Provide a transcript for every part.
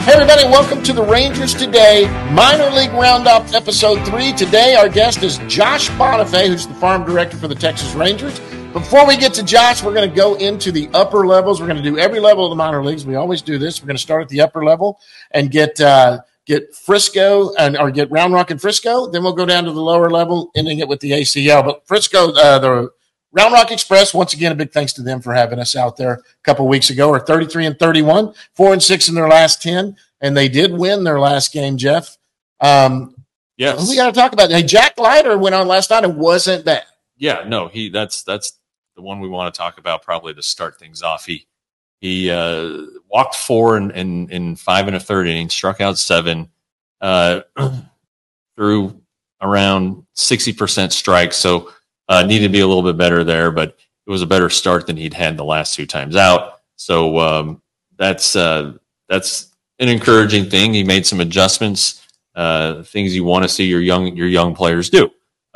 Hey everybody, welcome to the Rangers Today Minor League Roundup Episode 3. Today our guest is Josh Bonifay, who's the farm director for the Texas Rangers. Before we get to Josh, we're going to go into the upper levels. We're going to do every level of the minor leagues. We always do this. We're going to start at the upper level and get Frisco or get Round Rock and Frisco. Then we'll go down to the lower level, ending it with the ACL. But Frisco, the Round Rock Express, once again, a big thanks to them for having us out there a couple weeks ago. Are 33-31, 4-6 in their last 10, and they did win their last game, Jeff. Yes. We got to talk about it. Hey, Jack Leiter went on last night and wasn't bad. Yeah, no, that's the one we want to talk about probably to start things off. He walked 4 in 5 1/3 innings, struck out 7, threw around 60% strikes, so needed to be a little bit better there, but it was a better start than he'd had the last 2 times out. So that's an encouraging thing. He made some adjustments, things you want to see your young players do.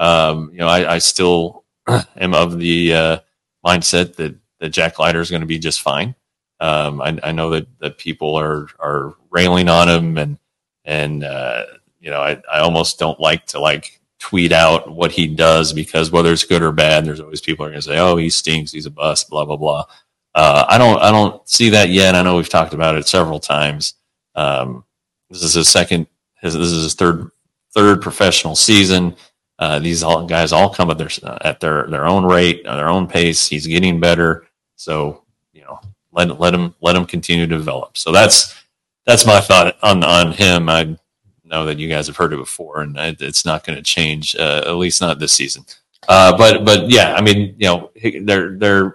I still am of the mindset that Jack Leiter is going to be just fine. I know that people are railing on him, and I almost don't like to tweet out what he does, because whether it's good or bad, there's always people are going to say, "Oh, he stinks, he's a bust," blah blah blah. I don't see that yet. I know we've talked about it several times. This is this is his third professional season. These guys all come at their own rate, at their own pace. He's getting better, so let him continue to develop. So that's my thought on him. I know that you guys have heard it before, and it's not going to change, at least not this season. But yeah, I mean, they're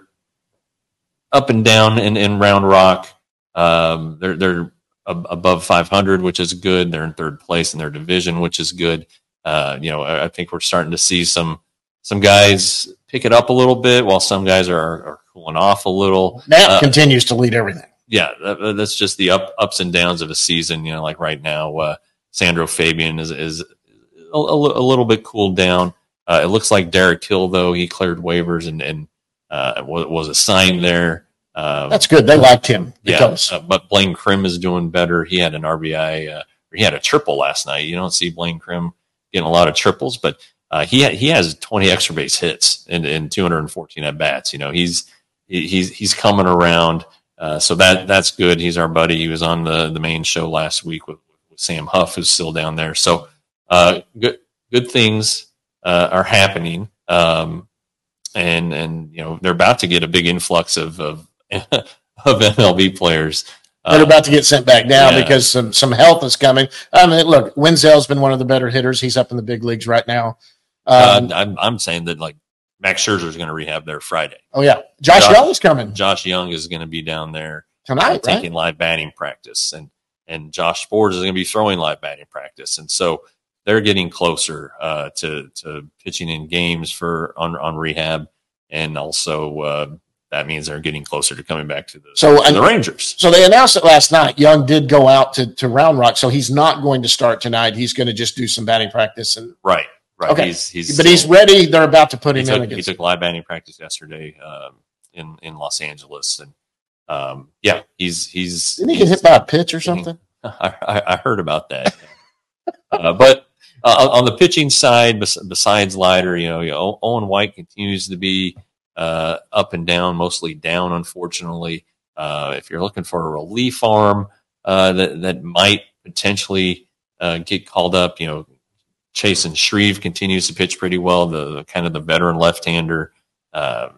up and down in Round Rock. They're above 500, which is good. They're in 3rd place in their division, which is good. I think we're starting to see some guys pick it up a little bit, while some guys are cooling off a little. Knapp continues to lead everything. Yeah, that's just the ups and downs of a season. Like right now, Sandro Fabian is a little bit cooled down. It looks like Derek Hill, though, he cleared waivers and was assigned there. That's good. They liked him. But Blaine Krim is doing better. He had an RBI. He had a triple last night. You don't see Blaine Krim getting a lot of triples, but he has 20 extra base hits in 214 at bats. He's coming around. So that's good. He's our buddy. He was on the main show last week with Sam Huff, who's still down there. So good things are happening. And they're about to get a big influx of MLB players. They're about to get sent back down because some health is coming. I mean, look, Wenzel's been one of the better hitters. He's up in the big leagues right now. I'm saying that Max Scherzer is going to rehab there Friday. Oh yeah, Josh Young is coming. Josh Young is going to be down there tonight, taking live batting practice, and Josh Sborz is going to be throwing live batting practice, and so they're getting closer to pitching in games on rehab, and also that means they're getting closer to coming back to the Rangers. So they announced it last night. Young did go out to Round Rock, so he's not going to start tonight. He's going to just do some batting practice. Right. Okay. He's ready. They're about to put him in. He took live batting practice yesterday in Los Angeles, and he's didn't he get hit by a pitch or something? I heard about that. But on the pitching side, besides Leiter, Owen White continues to be up and down, mostly down, unfortunately. If you're looking for a relief arm that might potentially get called up, Chasen Shreve continues to pitch pretty well, the kind of the veteran left-hander. I'm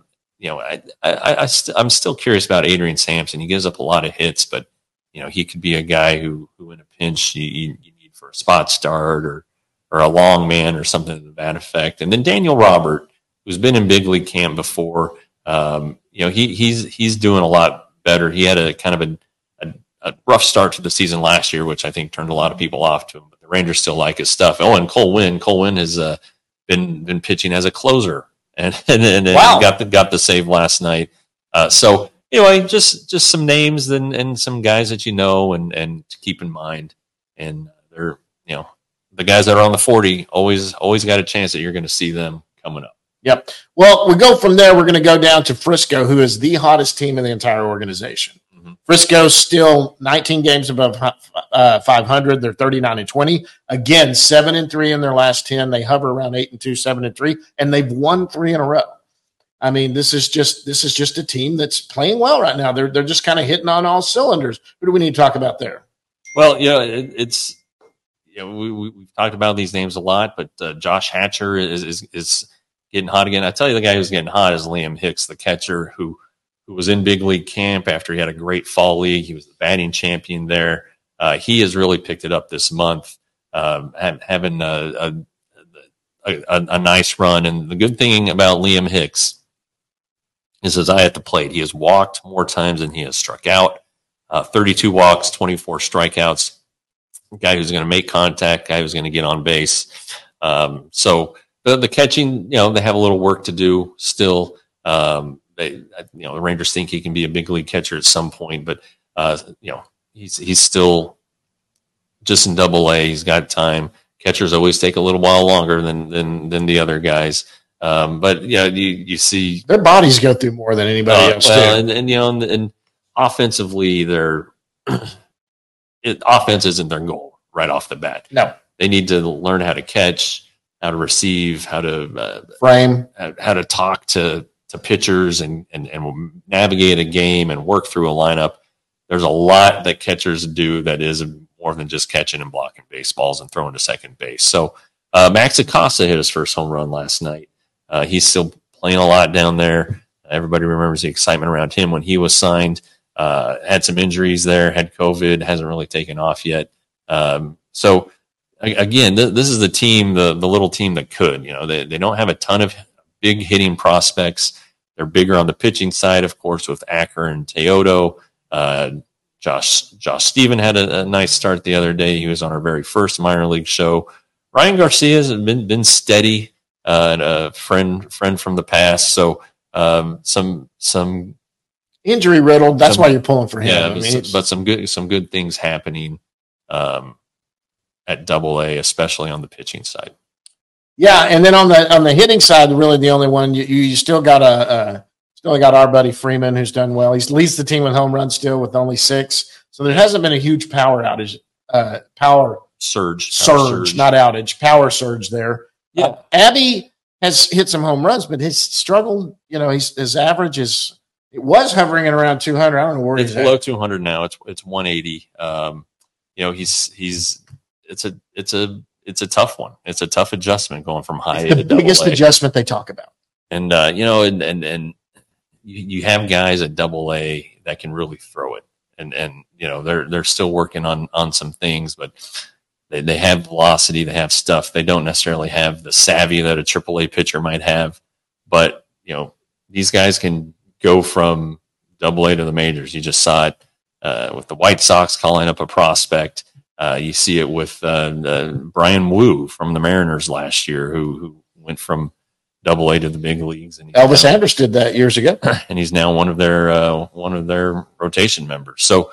still curious about Adrian Sampson. He gives up a lot of hits, but he could be a guy who in a pinch you need for a spot start or a long man or something to that effect. And then Daniel Robert, who's been in big league camp before, he's doing a lot better. He had a kind of a rough start to the season last year, which I think turned a lot of people off to him. But the Rangers still like his stuff. Oh, and Cole Winn has been pitching as a closer, and wow. got the save last night. So anyway, just some names and some guys that and to keep in mind. And they're the guys that are on the 40 always got a chance that you're going to see them coming up. Yep. Well, we go from there. We're going to go down to Frisco, who is the hottest team in the entire organization. Mm-hmm. Frisco's still 19 games above 500. They're 39-20. Again, 7-3 in their last 10. They hover around 8-2, 7-3, and they've won 3 in a row. I mean, this is just a team that's playing well right now. They're just kind of hitting on all cylinders. Who do we need to talk about there? Well, it's we've talked about these names a lot, but Josh Hatcher is getting hot again. I tell you, the guy who's getting hot is Liam Hicks, the catcher who was in big league camp after he had a great fall league. He was the batting champion there. He has really picked it up this month, having a nice run. And the good thing about Liam Hicks is his eye at the plate. He has walked more times than he has struck out. 32 walks, 24 strikeouts. A guy who's going to make contact, guy who's going to get on base. So the catching, they have a little work to do still. The Rangers think he can be a big league catcher at some point, but he's still just in Double-A. He's got time. Catchers always take a little while longer than the other guys. But you see their bodies go through more than anybody else. And offensively, offense isn't their goal right off the bat. No, they need to learn how to catch, how to receive, how to frame, how to talk to pitchers and navigate a game and work through a lineup. There's a lot that catchers do that is more than just catching and blocking baseballs and throwing to second base. So Max Acosta hit his first home run last night. He's still playing a lot down there. Everybody remembers the excitement around him when he was signed. Had some injuries there, had COVID, hasn't really taken off yet. So again, this is the team, the little team that could. They don't have a ton of big hitting prospects. They're bigger on the pitching side, of course, with Acker and Teodo. Josh Stephen had a nice start the other day. He was on our very first minor league show. Ryan Garcia has been steady, and a friend from the past. So some injury riddled. That's why you're pulling for him. Yeah, but some good things happening at Double-A, especially on the pitching side. Yeah, and then on the hitting side, really the only one you still got our buddy Freeman, who's done well. He leads the team with home runs still with only 6. So there hasn't been a huge power surge, not outage, power surge there. Yeah, Abby has hit some home runs, but his struggle, his average was hovering at around 200. I don't know where it's below 200 now. It's 180. It's a tough one. It's a tough adjustment going from high A to Double-A. Biggest adjustment they talk about. And you have guys at Double-A that can really throw it, and they're still working on some things, but they have velocity, they have stuff. They don't necessarily have the savvy that a AAA pitcher might have, but these guys can go from Double-A to the majors. You just saw it with the White Sox calling up a prospect. You see it with Brian Wu from the Mariners last year, who went from Double-A to the big leagues. And Elvis Andrus did that years ago, and he's now one of their rotation members. So,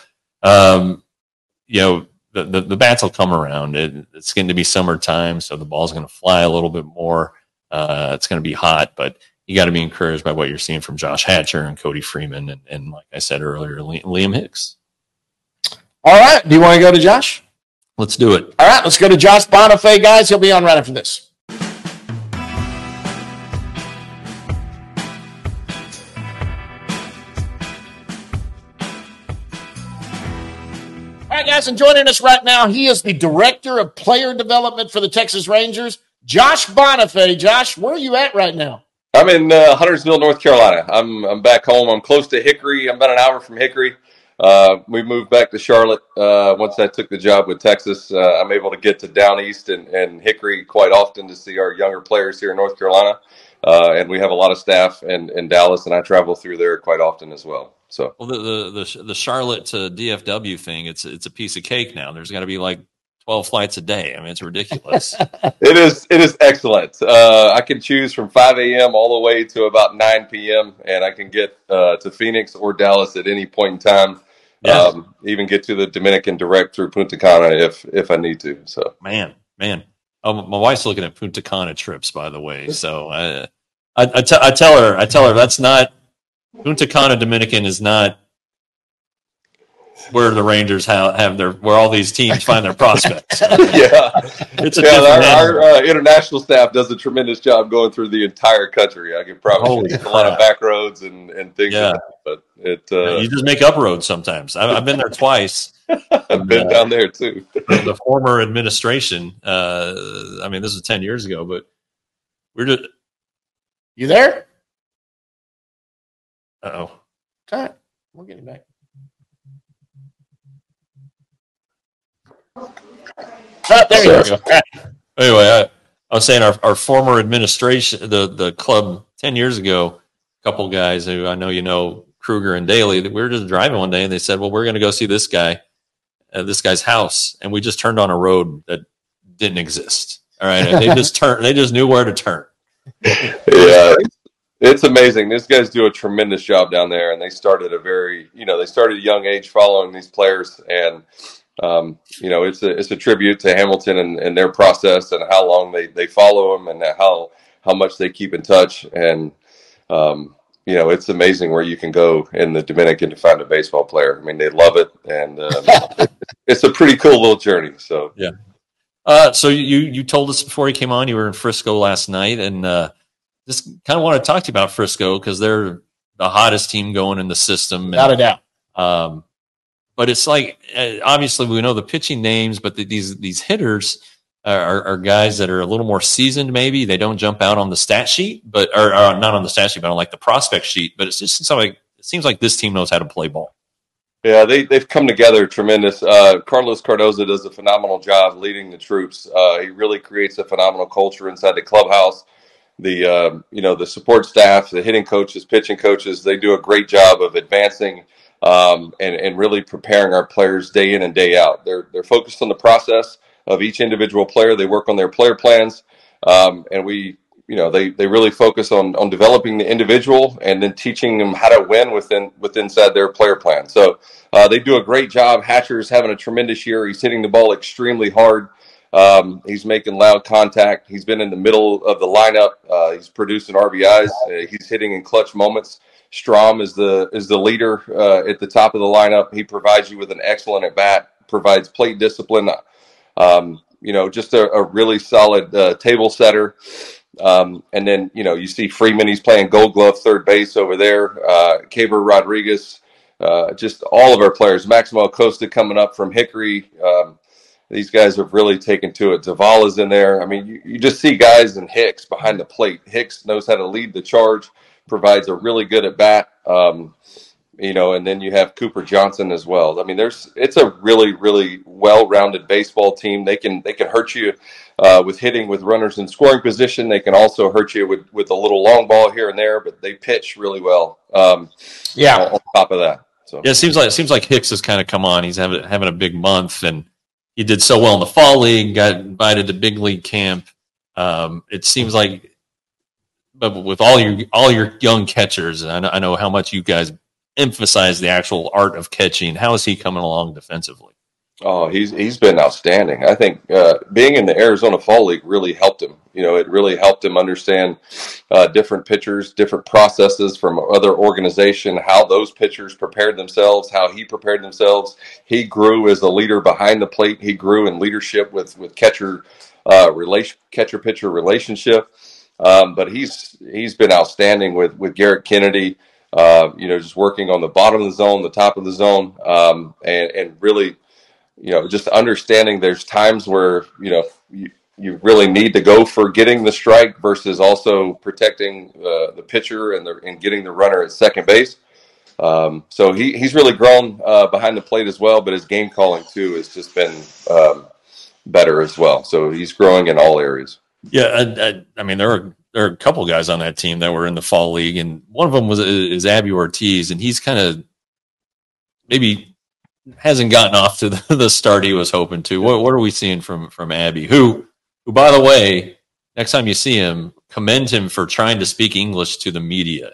the bats will come around. It's going to be summertime, so the ball's going to fly a little bit more. It's going to be hot, but you got to be encouraged by what you're seeing from Josh Hatcher and Cody Freeman, and like I said earlier, Liam Hicks. All right, do you want to go to Josh? Let's do it. All right, let's go to Josh Bonifay, guys. He'll be on right after this. All right, guys, and joining us right now, he is the Director of Player Development for the Texas Rangers, Josh Bonifay. Josh, where are you at right now? I'm in Huntersville, North Carolina. I'm back home. I'm close to Hickory. I'm about an hour from Hickory. We moved back to Charlotte once I took the job with Texas. I'm able to get to Down East and Hickory quite often to see our younger players here in North Carolina. And we have a lot of staff in Dallas, and I travel through there quite often as well. So, well, the Charlotte to DFW thing, it's a piece of cake now. There's got to be like 12 flights a day. I mean, it's ridiculous. It is excellent. I can choose from 5 a.m. all the way to about 9 p.m. and I can get to Phoenix or Dallas at any point in time. Yes. Even get to the Dominican direct through Punta Cana if I need to. So, man. Oh, my wife's looking at Punta Cana trips, by the way. So I tell her that's not Punta Cana Dominican is not where the Rangers have where all these teams find their prospects. It's our international staff does a tremendous job going through the entire country. I can promise you, a lot of back roads and things. Yeah, but you just make up roads sometimes. I've been there twice. I've been down there too. The former administration. This was 10 years ago, but we're just. You there? Uh-oh. Okay, we'll get him back. There you go. Anyway, I was saying our former administration, the club 10 years ago, a couple guys who I know, Kruger and Daly, we were just driving one day and they said, well, we're going to go see this guy's house. And we just turned on a road that didn't exist. All right. And they just knew where to turn. Yeah. It's amazing. These guys do a tremendous job down there, and they started at a young age following these players, and it's a tribute to Hamilton and their process and how long they follow them and how much they keep in touch. And it's amazing where you can go in the Dominican to find a baseball player. I mean, they love it, and it's a pretty cool little journey. So yeah. So you told us before you came on you were in Frisco last night, and just kind of want to talk to you about Frisco because they're the hottest team going in the system. Without a doubt. But it's like, obviously we know the pitching names, but these hitters are guys that are a little more seasoned. Maybe they don't jump out on the stat sheet, or not on the stat sheet, but on like the prospect sheet. But it seems like this team knows how to play ball. Yeah, they've come together tremendous. Carlos Cardoza does a phenomenal job leading the troops. He really creates a phenomenal culture inside the clubhouse. The support staff, the hitting coaches, pitching coaches, they do a great job of advancing and really preparing our players day in and day out. They're focused on the process of each individual player. They work on their player plans, and they really focus on developing the individual and then teaching them how to win inside their player plan. So they do a great job. Hatcher's having a tremendous year. He's hitting the ball extremely hard. He's making loud contact. He's been in the middle of the lineup. He's producing RBIs. He's hitting in clutch moments. Strom is the leader at the top of the lineup. He provides you with an excellent at bat. Provides plate discipline. Just a really solid table setter. And then you see Freeman. He's playing Gold Glove third base over there. Caber Rodriguez. Just all of our players. Maximo Acosta coming up from Hickory. These guys have really taken to it. Zavala's in there. I mean, you just see guys in Hicks behind the plate. Hicks knows how to lead the charge, provides a really good at bat. And then you have Cooper Johnson as well. I mean, it's a really, really well-rounded baseball team. They can hurt you with hitting with runners in scoring position. They can also hurt you with a little long ball here and there, but they pitch really well. On top of that. So yeah, it seems like Hicks has kind of come on. He's having a big month, and he did so well in the fall league, got invited to big league camp. It seems like, but with all your young catchers, and I know how much you guys emphasize the actual art of catching. How is he coming along defensively? Oh, he's been outstanding. I think being in the Arizona Fall League really helped him. It really helped him understand different pitchers, different processes from other organization, how those pitchers prepared themselves, how he prepared themselves. He grew as a leader behind the plate. He grew in leadership with catcher pitcher relationship. But he's been outstanding with Garrett Kennedy. Just working on the bottom of the zone, the top of the zone, and really. Just understanding there's times where, you really need to go for getting the strike versus also protecting the pitcher and getting the runner at second base. So he's really grown behind the plate as well, but his game calling too has just been better as well. So he's growing in all areas. Yeah. I mean, there are a couple guys on that team that were in the fall league, and one of them is Abby Ortiz, and he's kind of maybe hasn't gotten off to the start he was hoping to. What are we seeing from Abby, who, by the way, next time you see him, commend him for trying to speak English to the media.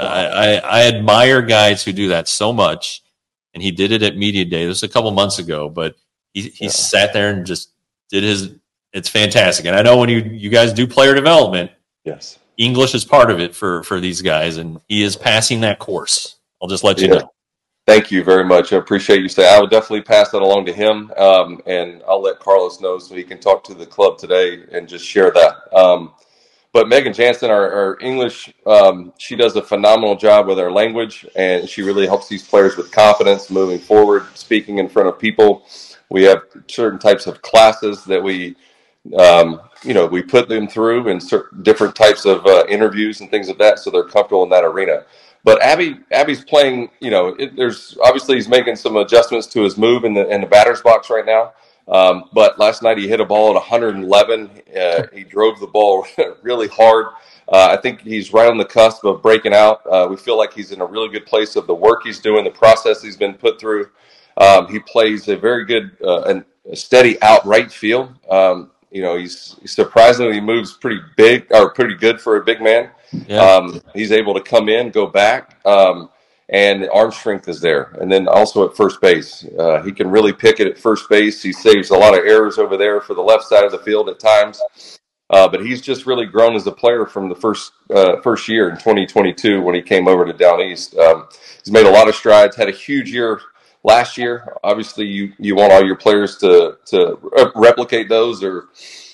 I admire guys who do that so much, and he did it at Media Day. This was a couple months ago, but he sat there and just did it's fantastic. And I know when you guys do player development, yes, English is part of it for these guys, and he is passing that course. I'll just let you know. Thank you very much. I appreciate you saying. I will definitely pass that along to him, and I'll let Carlos know so he can talk to the club today and just share that. But Megan Jansen, our English, she does a phenomenal job with our language, and she really helps these players with confidence moving forward, speaking in front of people. We have certain types of classes that we put them through and different types of interviews and things like that, so they're comfortable in that arena. But Abby's playing. There's obviously he's making some adjustments to his move in the batter's box right now. But last night he hit a ball at 111. He drove the ball really hard. I think he's right on the cusp of breaking out. We feel like he's in a really good place of the work he's doing, the process he's been put through. He plays a very good and steady out right field. He's surprisingly moves pretty big or pretty good for a big man. Yeah. He's able to come in, go back, and the arm strength is there. And then also at first base, he can really pick it at first base. He saves a lot of errors over there for the left side of the field at times. But he's just really grown as a player from the first year in 2022 when he came over to Down East. He's made a lot of strides, had a huge year last year. Obviously, you want all your players to replicate those or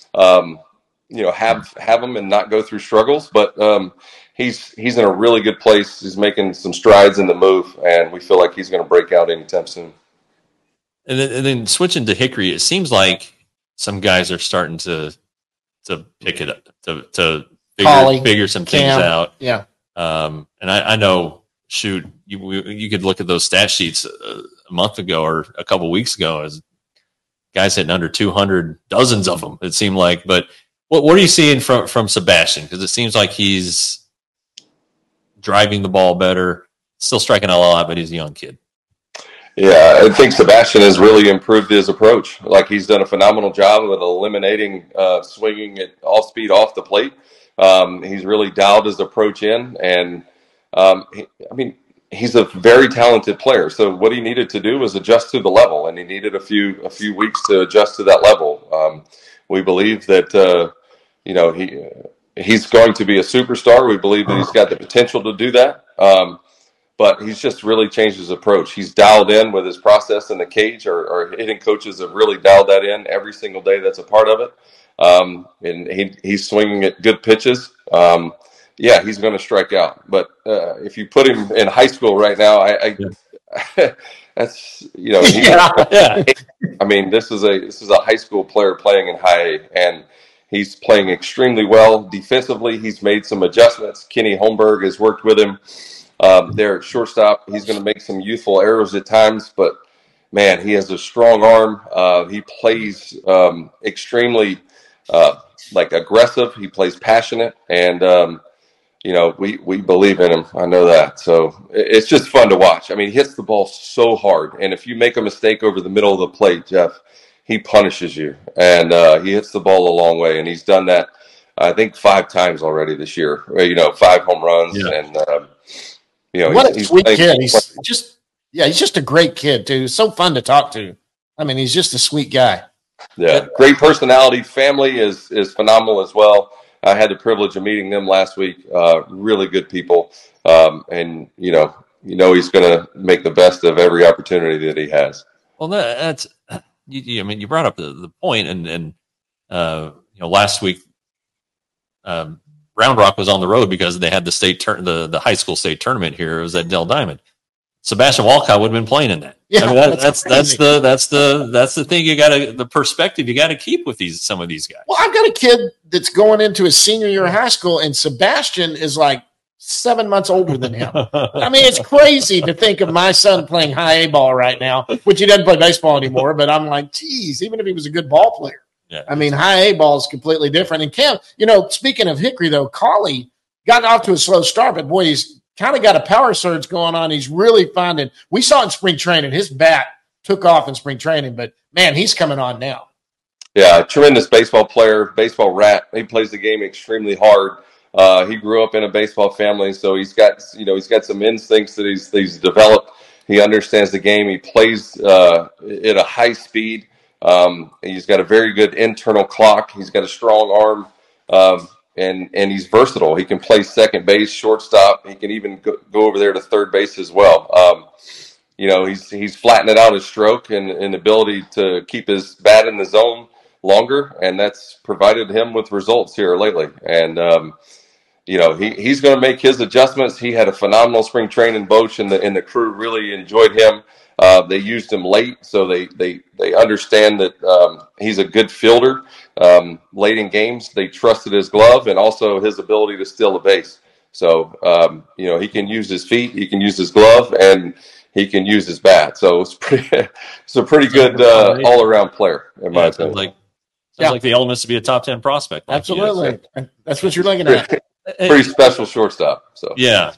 have them and not go through struggles. But he's in a really good place. He's making some strides in the move, and we feel like he's going to break out anytime soon. And then switching to Hickory, it seems like some guys are starting to pick it up, to figure some things out. Yeah. And I know, shoot, you could look at those stat sheets a month ago or a couple weeks ago as guys hitting under 200, dozens of them, it seemed like. But what are you seeing from Sebastian? Because it seems like he's driving the ball better, still striking out a lot, but he's a young kid. Yeah, I think Sebastian has really improved his approach. Like, he's done a phenomenal job of eliminating swinging at all speed off the plate. He's really dialed his approach in, and he's a very talented player. So what he needed to do was adjust to the level, and he needed a few weeks to adjust to that level. We believe that he's going to be a superstar. We believe that he's got the potential to do that. But he's just really changed his approach. He's dialed in with his process in the cage. Our hitting coaches have really dialed that in every single day. That's a part of it. And he's swinging at good pitches. He's going to strike out. But if you put him in high school right now, that's I mean, this is a high school player playing in high A, and he's playing extremely well defensively. He's made some adjustments. Kenny Holmberg has worked with him. There at shortstop, he's going to make some youthful errors at times, but man, he has a strong arm. He plays extremely aggressive. He plays passionate, and we believe in him. I know that. So it's just fun to watch. I mean, he hits the ball so hard, and if you make a mistake over the middle of the plate, Jeff, he punishes you, and he hits the ball a long way, and he's done that, I think, 5 times already this year. 5 home runs, and what a sweet kid. He's just a great kid too. So fun to talk to. I mean, he's just a sweet guy. Yeah, great personality. Family is phenomenal as well. I had the privilege of meeting them last week. Really good people, and he's going to make the best of every opportunity that he has. Well, that's you brought up the point, and last week. Round Rock was on the road because they had the high school state tournament here. It was at Dell Diamond. Sebastian Walcott would have been playing in that. Yeah, that's the thing the perspective you got to keep with some of these guys. Well, I've got a kid that's going into his senior year of high school, and Sebastian is like 7 months older than him. I mean, it's crazy to think of my son playing high A ball right now, which he doesn't play baseball anymore. But I'm like, geez, even if he was a good ball player. Yeah. I mean, high A ball is completely different. And Cam, speaking of Hickory, though, Collie got off to a slow start, but boy, he's kind of got a power surge going on. He's really finding – we saw in spring training, his bat took off in spring training, but, man, he's coming on now. Yeah, tremendous baseball player, baseball rat. He plays the game extremely hard. He grew up in a baseball family, so he's got some instincts that he's developed. He understands the game. He plays at a high speed. He's got a very good internal clock. He's got a strong arm, and he's versatile. He can play second base, shortstop. He can even go over there to third base as well. he's flattening out his stroke and ability to keep his bat in the zone longer, and that's provided him with results here lately. And he's going to make his adjustments. He had a phenomenal spring training, Boch, and the crew really enjoyed him. They used him late, so they understand that he's a good fielder. Late in games, they trusted his glove and also his ability to steal a base. So he can use his feet, he can use his glove, and he can use his bat. So it's a pretty good all around player in my opinion. Sounds like the elements to be a top 10 prospect. Absolutely, that's what you're looking at. Pretty special shortstop. So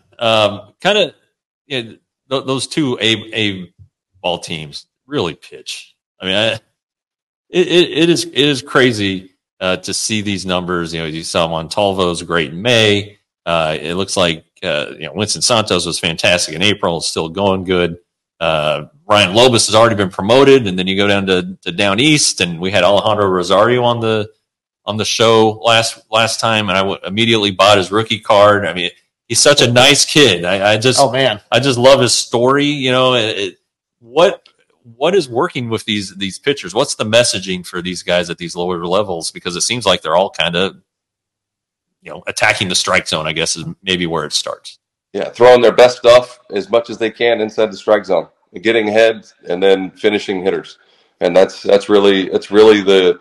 those two A ball teams really pitch. I mean, it is crazy to see these numbers. You saw Montalvo's great in May. It looks like Winston Santos was fantastic in April. It's still going good. Ryan Lobus has already been promoted, and then you go down to down east, and we had Alejandro Rosario on the show last time, and I immediately bought his rookie card. I mean, he's such a nice kid. I just love his story. What is working with these pitchers? What's the messaging for these guys at these lower levels? Because it seems like they're all kind of attacking the strike zone, I guess, is maybe where it starts. Yeah, throwing their best stuff as much as they can inside the strike zone, getting ahead, and then finishing hitters, and that's really the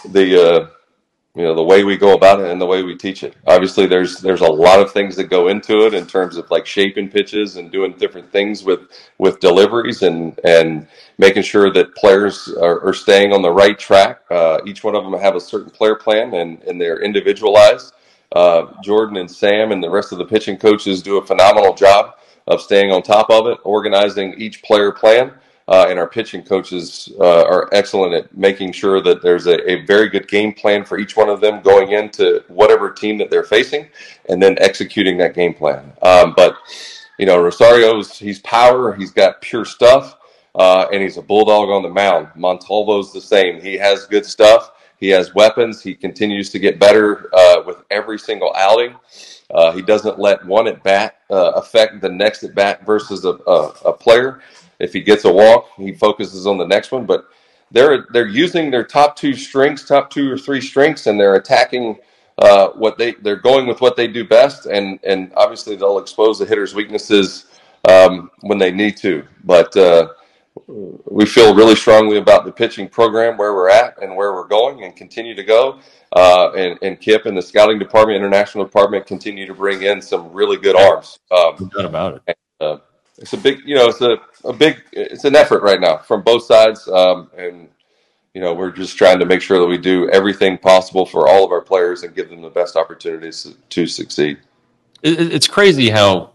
way we go about it and the way we teach it. Obviously, there's a lot of things that go into it in terms of like shaping pitches and doing different things with deliveries and making sure that players are staying on the right track. Each one of them have a certain player plan and they're individualized. Jordan and Sam and the rest of the pitching coaches do a phenomenal job of staying on top of it, organizing each player plan. And our pitching coaches are excellent at making sure that there's a very good game plan for each one of them going into whatever team that they're facing and then executing that game plan. But Rosario's, he's power, he's got pure stuff, and he's a bulldog on the mound. Montalvo's the same. He has good stuff. He has weapons. He continues to get better with every single outing. He doesn't let one at bat affect the next at bat versus a player. If he gets a walk, he focuses on the next one. But they're using their top two or three strengths, and they're attacking they're going with what they do best. And obviously they'll expose the hitter's weaknesses when they need to. But we feel really strongly about the pitching program, where we're at and where we're going, and continue to go. And Kip and the scouting department, international department, continue to bring in some really good arms. No doubt about it. It's a big, it's an effort right now from both sides. And we're just trying to make sure that we do everything possible for all of our players and give them the best opportunities to succeed. It's crazy how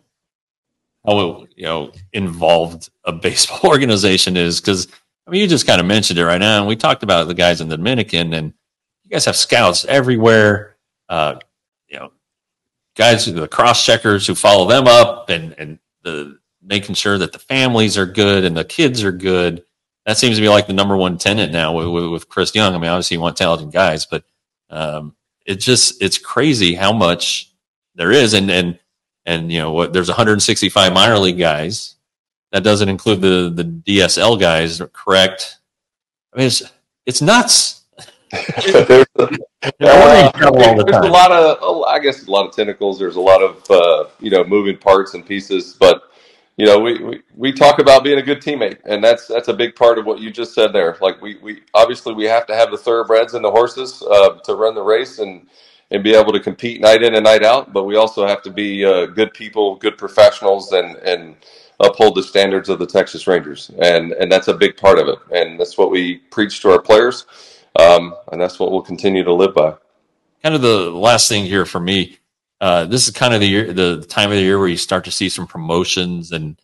involved a baseball organization is, because you just kind of mentioned it right now, and we talked about the guys in the Dominican, and you guys have scouts everywhere. Guys, the cross checkers who follow them up, and the making sure that the families are good and the kids are good. That seems to be like the number one tenet now with Chris Young. Obviously you want talented guys, but it's crazy how much there is. And there's 165 minor league guys. That doesn't include the DSL guys, correct? It's nuts. There's a lot of tentacles. There's a lot of moving parts and pieces, but we talk about being a good teammate, and that's a big part of what you just said there. Like we obviously we have to have the thoroughbreds and the horses to run the race and be able to compete night in and night out, but we also have to be good people, good professionals, and uphold the standards of the Texas Rangers, and that's a big part of it, and that's what we preach to our players, and that's what we'll continue to live by. Kind of the last thing here for me, this is kind of the time of the year where you start to see some promotions and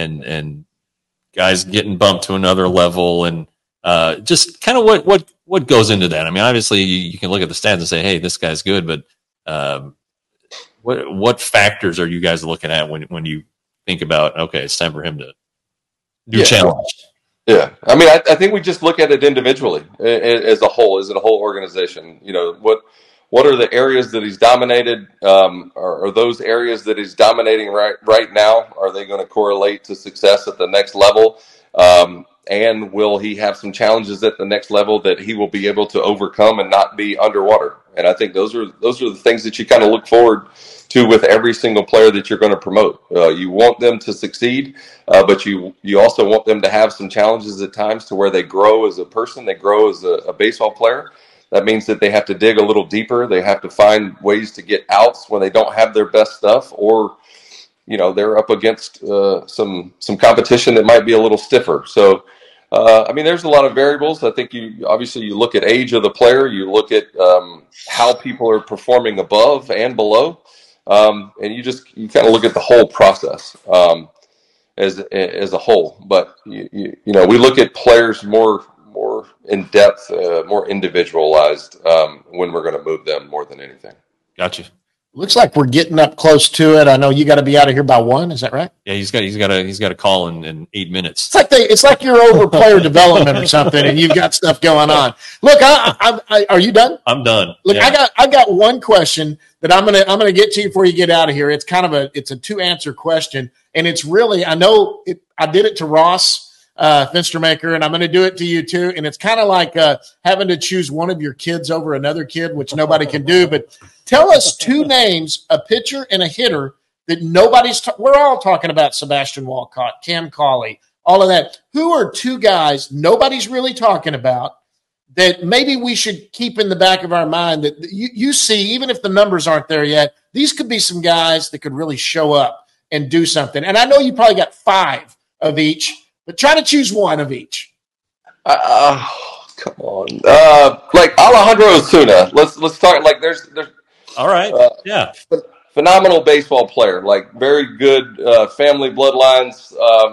guys getting bumped to another level, and just kind of what goes into that. Obviously you can look at the stats and say, hey, this guy's good, but what factors are you guys looking at when you think about, okay, it's time for him to do challenge? Yeah, I think we just look at it individually as a whole organization. what are the areas that he's dominated? Are those areas that he's dominating right now, are they going to correlate to success at the next level? And will he have some challenges at the next level that he will be able to overcome and not be underwater? And I think those are the things that you kind of look forward to with every single player that you're going to promote. You want them to succeed, but you also want them to have some challenges at times to where they grow as a person, they grow as a baseball player. That means that they have to dig a little deeper. They have to find ways to get outs when they don't have their best stuff, or they're up against some competition that might be a little stiffer. So, there's a lot of variables. I think you look at age of the player, you look at how people are performing above and below, and you kind of look at the whole process as a whole. But we look at players more in depth, more individualized when we're going to move them more than anything. Gotcha. Looks like we're getting up close to it. I know you got to be out of here by 1. Is that right? Yeah, he's got a call in 8 minutes. It's like you're over player development or something, and you've got stuff going on. Look, are you done? I'm done. Look, yeah. I got one question that I'm gonna get to you before you get out of here. It's kind of a 2-answer question, and it's really I did it to Ross Finstermaker, and I'm going to do it to you too. And it's kind of like having to choose one of your kids over another kid, which nobody can do. But tell us 2 names, a pitcher and a hitter that we're all talking about Sebastian Walcott, Cam Cauley, all of that. Who are 2 guys nobody's really talking about that maybe we should keep in the back of our mind that you see, even if the numbers aren't there yet, these could be some guys that could really show up and do something. And I know you probably got 5 of each, but try to choose one of each. Come on. Like Alejandro Osuna. Let's start. Like there's. All right. Yeah. Phenomenal baseball player. Like very good family bloodlines.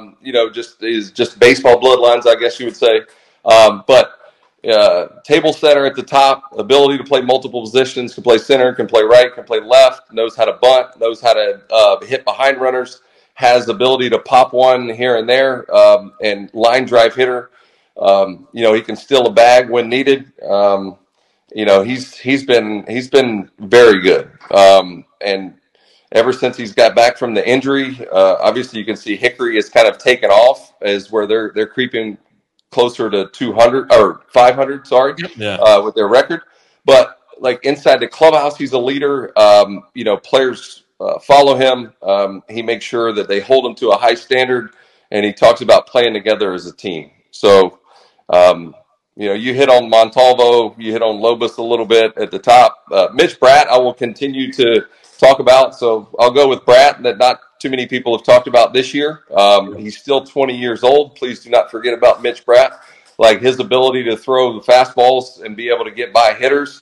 Just baseball bloodlines, I guess you would say. But table setter at the top. Ability to play multiple positions. Can play center. Can play right. Can play left. Knows how to bunt. Knows how to hit behind runners. Has the ability to pop one here and there, and line drive hitter. He can steal a bag when needed. He's been very good. And ever since he's got back from the injury, obviously you can see Hickory has kind of taken off as where they're creeping closer to 200 or 500. Sorry, with their record. But like inside the clubhouse, he's a leader. Players follow him. He makes sure that they hold him to a high standard, and he talks about playing together as a team. So, you hit on Montalvo, you hit on Lobos a little bit at the top. Mitch Bratt, I will continue to talk about. So I'll go with Bratt, that not too many people have talked about this year. He's still 20 years old. Please do not forget about Mitch Bratt. Like his ability to throw the fastballs and be able to get by hitters.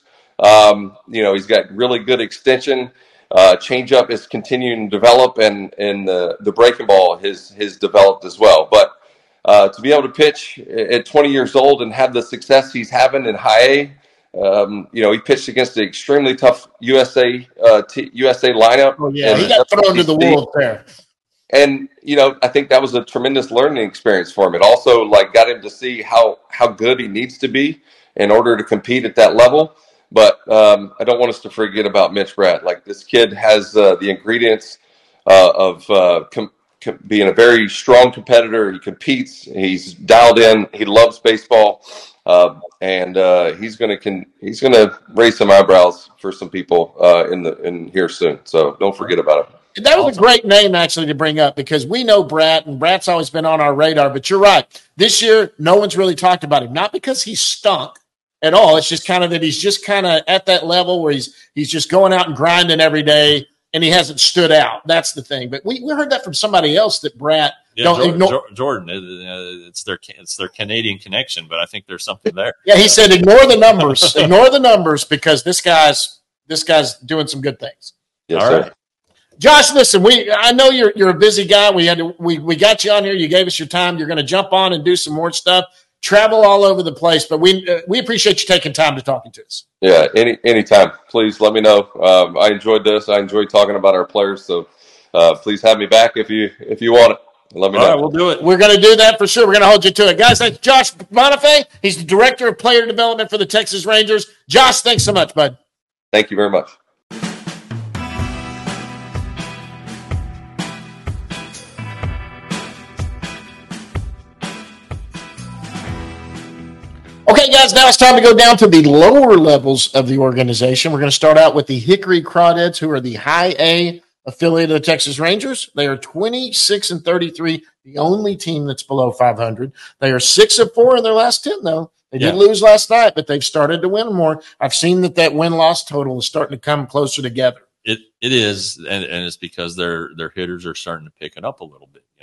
He's got really good extension. Changeup is continuing to develop, and the breaking ball has developed as well. But to be able to pitch at 20 years old and have the success he's having in high A, he pitched against an extremely tough USA lineup. Oh, yeah, he got thrown to the wolves there. And I think that was a tremendous learning experience for him. It also got him to see how good he needs to be in order to compete at that level. But I don't want us to forget about Mitch Bratt. Like this kid has the ingredients of being a very strong competitor. He competes. He's dialed in. He loves baseball, and he's gonna raise some eyebrows for some people in here soon. So don't forget about it. That was a great name actually to bring up because we know Bratt, and Bratt's always been on our radar. But you're right. This year, no one's really talked about him. Not because he stunk at all. It's just kind of that he's just kind of at that level where he's just going out and grinding every day, and he hasn't stood out. That's the thing. But we heard that from somebody else that Bratt Jordan. It's their Canadian connection, but I think there's something there. Yeah, he said ignore the numbers, ignore the numbers because this guy's doing some good things. Yes, all sir. right. Josh, listen, I know you're a busy guy. We got you on here. You gave us your time. You're going to jump on and do some more stuff. Travel all over the place, but we appreciate you taking time to talking to us. Yeah, anytime. Please let me know. I enjoyed this. I enjoyed talking about our players. So please have me back if you want it. Let me know. All right, we'll do it. We're going to do that for sure. We're going to hold you to it. Guys, that's Josh Bonifay. He's the Director of Player Development for the Texas Rangers. Josh, thanks so much, bud. Thank you very much. Okay, guys, now it's time to go down to the lower levels of the organization. We're going to start out with the Hickory Crawdads, who are the high A affiliate of the Texas Rangers. They are 26-33, the only team that's below 500. They are 6-4 in their last 10, though. They did lose last night, but they've started to win more. I've seen that win-loss total is starting to come closer together. It is, and it's because their hitters are starting to pick it up a little bit.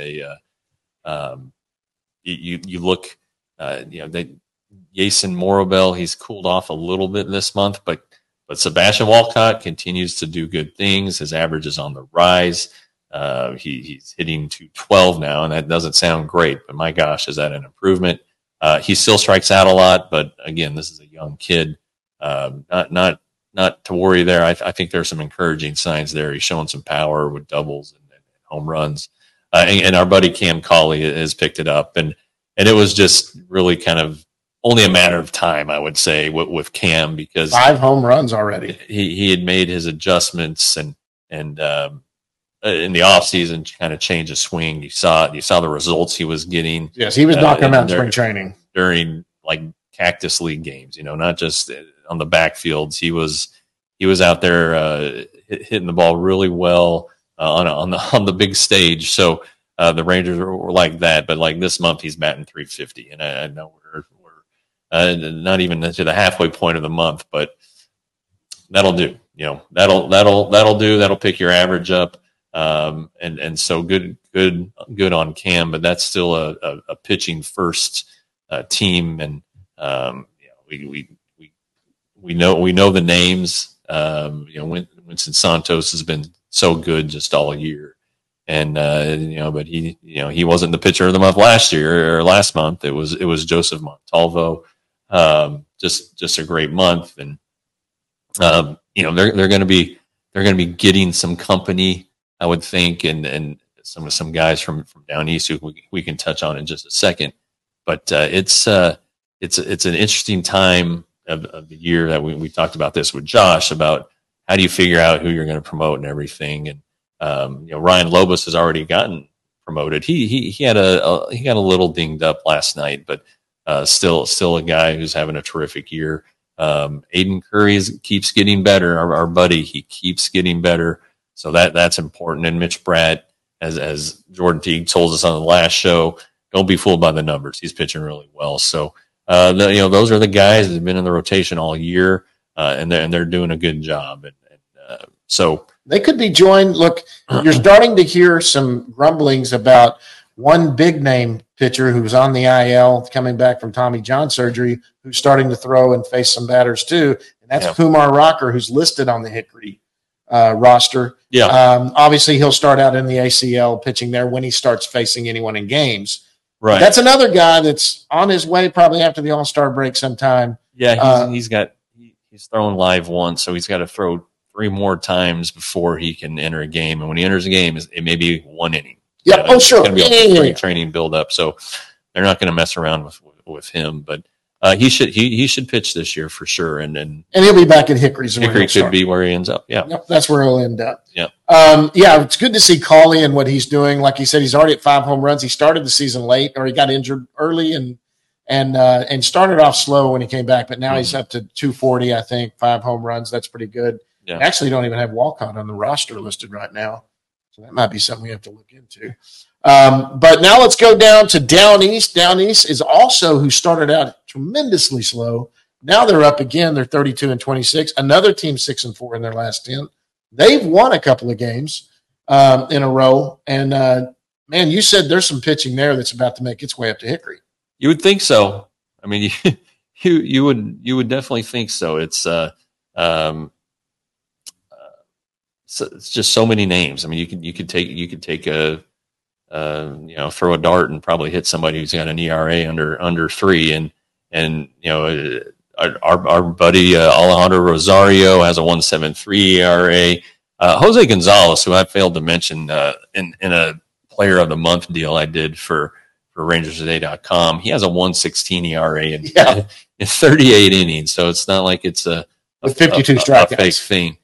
You look, Jason Morabel, he's cooled off a little bit this month, but Sebastian Walcott continues to do good things. His average is on the rise. He's hitting 212 now, and that doesn't sound great, but my gosh, is that an improvement? He still strikes out a lot, but again, this is a young kid. Not to worry there. I think there's some encouraging signs there. He's showing some power with doubles and home runs. And our buddy Cam Cauley has picked it up, and it was just really kind of only a matter of time, I would say, with Cam, because 5 home runs already. He had made his adjustments and in the offseason kind of changed his swing. You saw the results he was getting. Yes, he was knocking them out in spring training during like Cactus League games. Not just on the backfields. He was out there hitting the ball really well on the big stage. So the Rangers were like that, but like this month he's batting 350, and I know we're not even to the halfway point of the month, but that'll do. That'll do. That'll pick your average up. And so good on Cam, but that's still a pitching first team, and we know the names. Winston Santos has been so good just all year, and but he wasn't the pitcher of the month last year or last month. It was Joseph Montalvo. Just a great month, and they're going to be getting some company, I would think, and some guys from down east who we can touch on in just a second. But it's an interesting time of the year that we talked about this with Josh about how do you figure out who you're going to promote and everything. And Ryan Lobos has already gotten promoted. He got a little dinged up last night, but still a guy who's having a terrific year. Aiden Curry keeps getting better. Our buddy, he keeps getting better. So that's important. And Mitch Bratt, as Jordan Teague told us on the last show, don't be fooled by the numbers. He's pitching really well. So, those are the guys that have been in the rotation all year, and they're doing a good job. So they could be joined. Look, you're starting to hear some grumblings about one big name pitcher who's on the IL coming back from Tommy John surgery, who's starting to throw and face some batters too. And that's Kumar Rocker, who's listed on the Hickory roster. Yeah. Obviously he'll start out in the ACL pitching there when he starts facing anyone in games. Right. But that's another guy that's on his way probably after the All-Star break sometime. Yeah. He's throwing live once, so he's got to throw 3 more times before he can enter a game. And when he enters a game, it may be 1 inning. Yeah, sure. It's going to be a training build up, so they're not going to mess around with him. But he should pitch this year for sure, and he'll be back at Hickory's. Hickory could be where he ends up. Yeah, yep, that's where he'll end up. Yeah, it's good to see Cauley and what he's doing. Like he said, he's already at 5 home runs. He started the season late, or he got injured early, and started off slow when he came back. But now he's up to 240, I think, 5 home runs. That's pretty good. Yeah. Actually, don't even have Walcott on the roster listed right now. So that might be something we have to look into. But now let's go down to Down East. Down East is also who started out tremendously slow. Now they're up again. They're 32-26. Another team 6-4 in their last 10. They've won a couple of games in a row. And, man, you said there's some pitching there that's about to make its way up to Hickory. You would think so. I mean, you would definitely think so. It's it's just so many names. I mean, you could take a throw a dart and probably hit somebody who's got an ERA under 3, and our buddy Alejandro Rosario has a 1.73 ERA. Jose Gonzalez, who I failed to mention in a Player of the Month deal I did for RangersToday.com, he has a 1.16 ERA in 38 innings. So it's not like it's a with 52 a strikeouts. fake thing.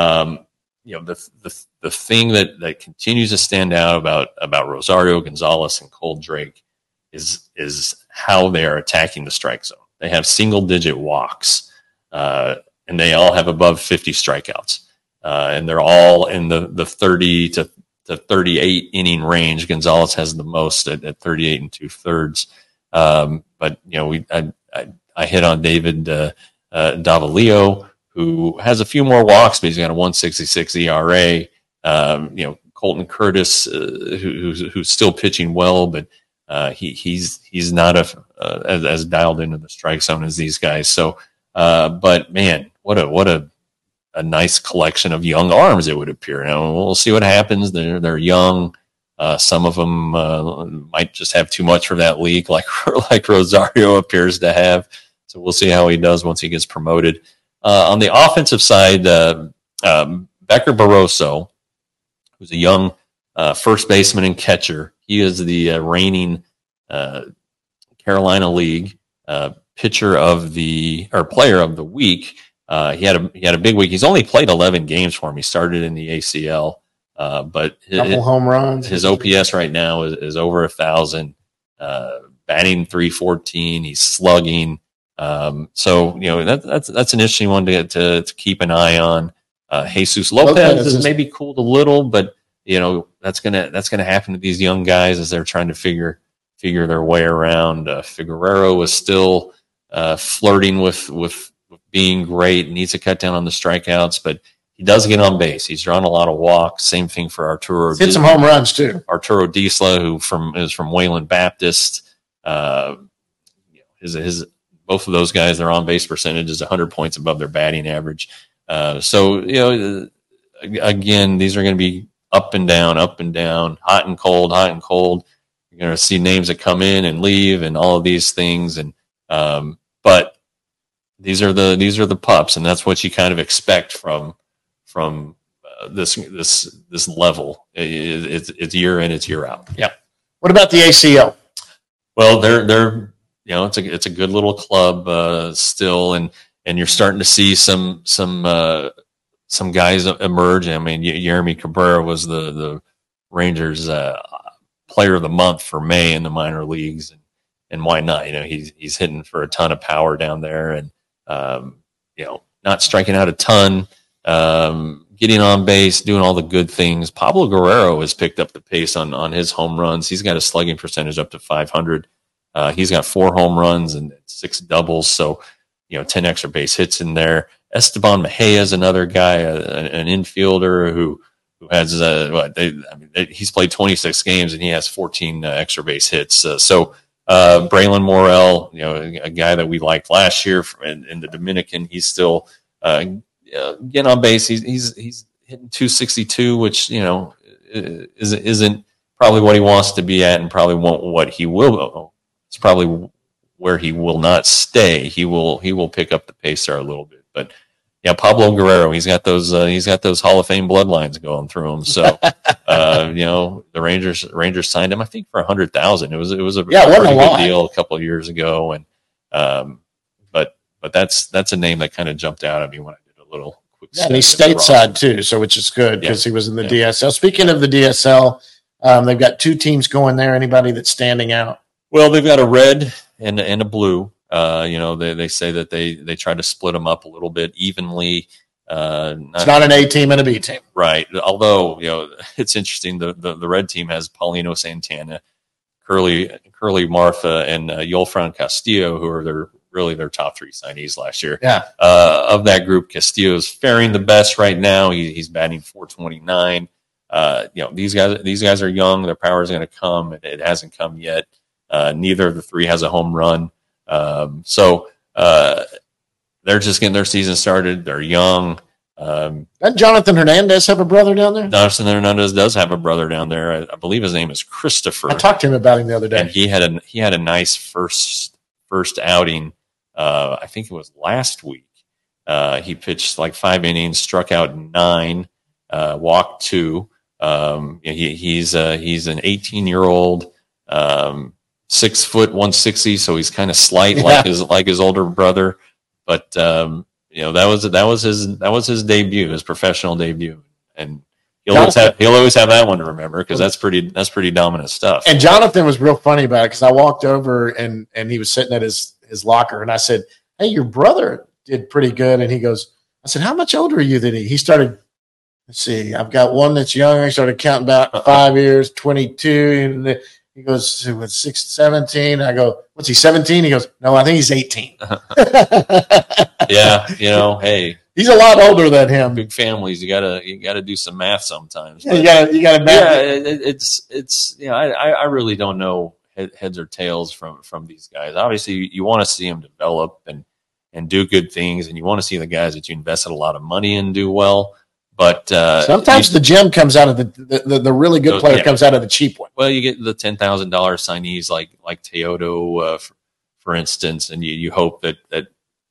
The thing that continues to stand out about Rosario, Gonzalez, and Cole Drake is how they are attacking the strike zone. They have single-digit walks, and they all have above 50 strikeouts, and they're all in the 30 to 38 inning range. Gonzalez has the most at 38 and 2/3. But I hit on David Davalillo, who has a few more walks, but he's got a 1.66 ERA. Colton Curtis, who's still pitching well, but he's not as dialed into the strike zone as these guys. So, but man, what a nice collection of young arms, it would appear. Now we'll see what happens. They're young. Some of them might just have too much for that league, like Rosario appears to have. So we'll see how he does once he gets promoted. On the offensive side, Becker Barroso, who's a young first baseman and catcher. He is the reigning Carolina League player of the week. He had a big week. He's only played 11 games for him. He started in the ACL, but couple home runs. His OPS right now is over 1,000. Batting .314. He's slugging. So that's an interesting one to keep an eye on. Jesus Lopez is maybe cooled a little, but that's gonna happen to these young guys as they're trying to figure their way around. Figueroa was still flirting with being great. Needs to cut down on the strikeouts, but he does get on base. He's drawn a lot of walks. Same thing for Arturo. Hit some home runs too. Arturo Disla, who is from Wayland Baptist. His both of those guys, their on base percentage is 100 points above their batting average. So again, these are going to be up and down, hot and cold. You're going to see names that come in and leave, and all of these things. And but these are the pups, and that's what you kind of expect from this level. It's year in, it's year out. Yeah. What about the ACL? Well, they're it's a good little club still, and you're starting to see some guys emerge. I mean, Jeremy Cabrera was the Rangers player of the month for May in the minor leagues, and why not? He's hitting for a ton of power down there, and not striking out a ton, getting on base, doing all the good things. Pablo Guerrero has picked up the pace on his home runs. He's got a slugging percentage up to 500. He's got 4 home runs and 6 doubles, so 10 extra base hits in there. Esteban Mejia is another guy, an infielder who has he's played 26 games and he has 14 extra base hits. So Braylon Morel, a guy that we liked last year in the Dominican, he's still getting on base. He's hitting 262, which isn't probably what he wants to be at, and probably won't what he will. It's probably where he will not stay. He will pick up the pace there a little bit, but yeah, Pablo Guerrero, he's got those Hall of Fame bloodlines going through him. So the Rangers signed him, I think, for $100,000. It was a pretty good deal a couple of years ago, and but that's a name that kind of jumped out at me when I did a little quick. Yeah, and he's stateside too, so which is good because he was in the DSL. Speaking of the DSL, they've got 2 teams going there. Anybody that's standing out? Well, they've got a red and a blue. They say that they try to split them up a little bit evenly. It's not an A team and a B team, right? Although it's interesting. The red team has Paulino Santana, Curly Martha, and Yolfran Castillo, who are their top 3 signees last year. Yeah. Of that group, Castillo is faring the best right now. He's batting .429. These guys are young. Their power is going to come. It hasn't come yet. Neither of the 3 has a home run. So they're just getting their season started. They're young. Doesn't Jonathan Hernandez have a brother down there? Jonathan Hernandez does have a brother down there. I believe his name is Christopher. I talked to him about him the other day. And he had a nice first outing. I think it was last week. He pitched like 5 innings, struck out 9, walked 2. He's an 18-year-old. 6 foot 160, so he's kind of slight like his older brother, but that was his debut, his professional debut, and he'll always have that one to remember because that's pretty dominant stuff. And Jonathan was real funny about it because I walked over and he was sitting at his locker, and I said, "Hey, your brother did pretty good," and he goes, I said, "How much older are you than he?" He started. Let's see, I've got one that's younger. I started counting about 5 years, 22. And he goes, "What's 17?" I go, "What's he, 17?" He goes, "No, I think he's 18. Yeah, hey, he's a lot older than him. Big families, you gotta do some math sometimes. Yeah, you gotta math. Yeah, it's I really don't know heads or tails from these guys. Obviously, you want to see them develop and do good things, and you want to see the guys that you invested a lot of money in do well. But sometimes the gem comes out of the really good player comes out of the cheap one. Well, you get the $10,000 signees like Teodo, for instance, and you hope that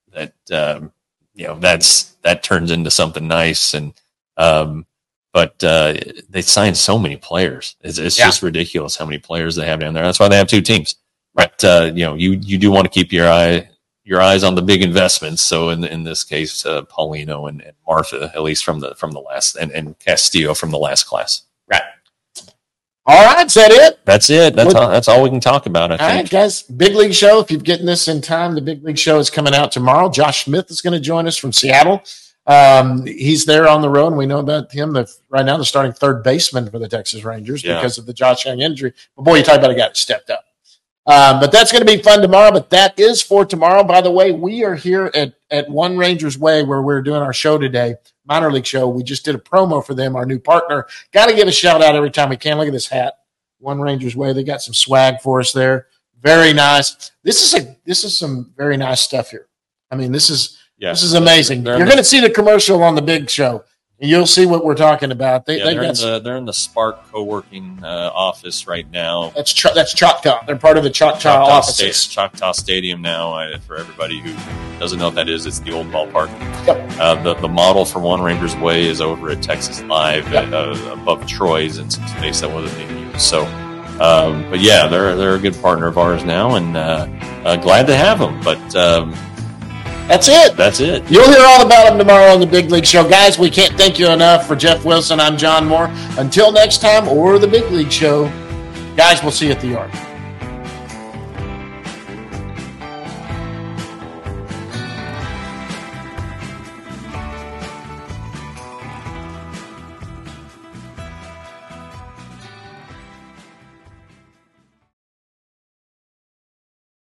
turns into something nice. And but they signed so many players. It's just ridiculous how many players they have down there. That's why they have two teams. But you do want to keep your eyes on the big investments. So in this case, Paulino and Martha, at least from the last, and Castillo from the last class. Right. All right, is that it? That's it. That's all we can talk about, I think. All right, guys. Big League Show. If you're getting this in time, the Big League Show is coming out tomorrow. Josh Smith is going to join us from Seattle. He's there on the road, and we know about him. Right now, they're starting third baseman for the Texas Rangers because of the Josh Young injury. But boy, you talk about a guy that stepped up. But that's going to be fun tomorrow. But that is for tomorrow. By the way, we are here at One Rangers Way where we're doing our show today, minor league show. We just did a promo for them, our new partner. Got to give a shout out every time we can. Look at this hat, One Rangers Way. They got some swag for us there. Very nice. This is some very nice stuff here. I mean, this is amazing. You're going to see the commercial on the big show. And you'll see what we're talking about. They're in the Spark co-working office right now. That's Choctaw. They're part of the Choctaw offices. Choctaw Stadium now. For everybody who doesn't know what that is, it's the old ballpark. Yep. The model for One Rangers Way is over at Texas Live above Troy's in some space that wasn't being used. So, but yeah, they're a good partner of ours now, and glad to have them. But. That's it. That's it. You'll hear all about them tomorrow on the Big League Show. Guys, we can't thank you enough. For Jeff Wilson, I'm John Moore. Until next time, or the Big League Show, guys, we'll see you at the yard.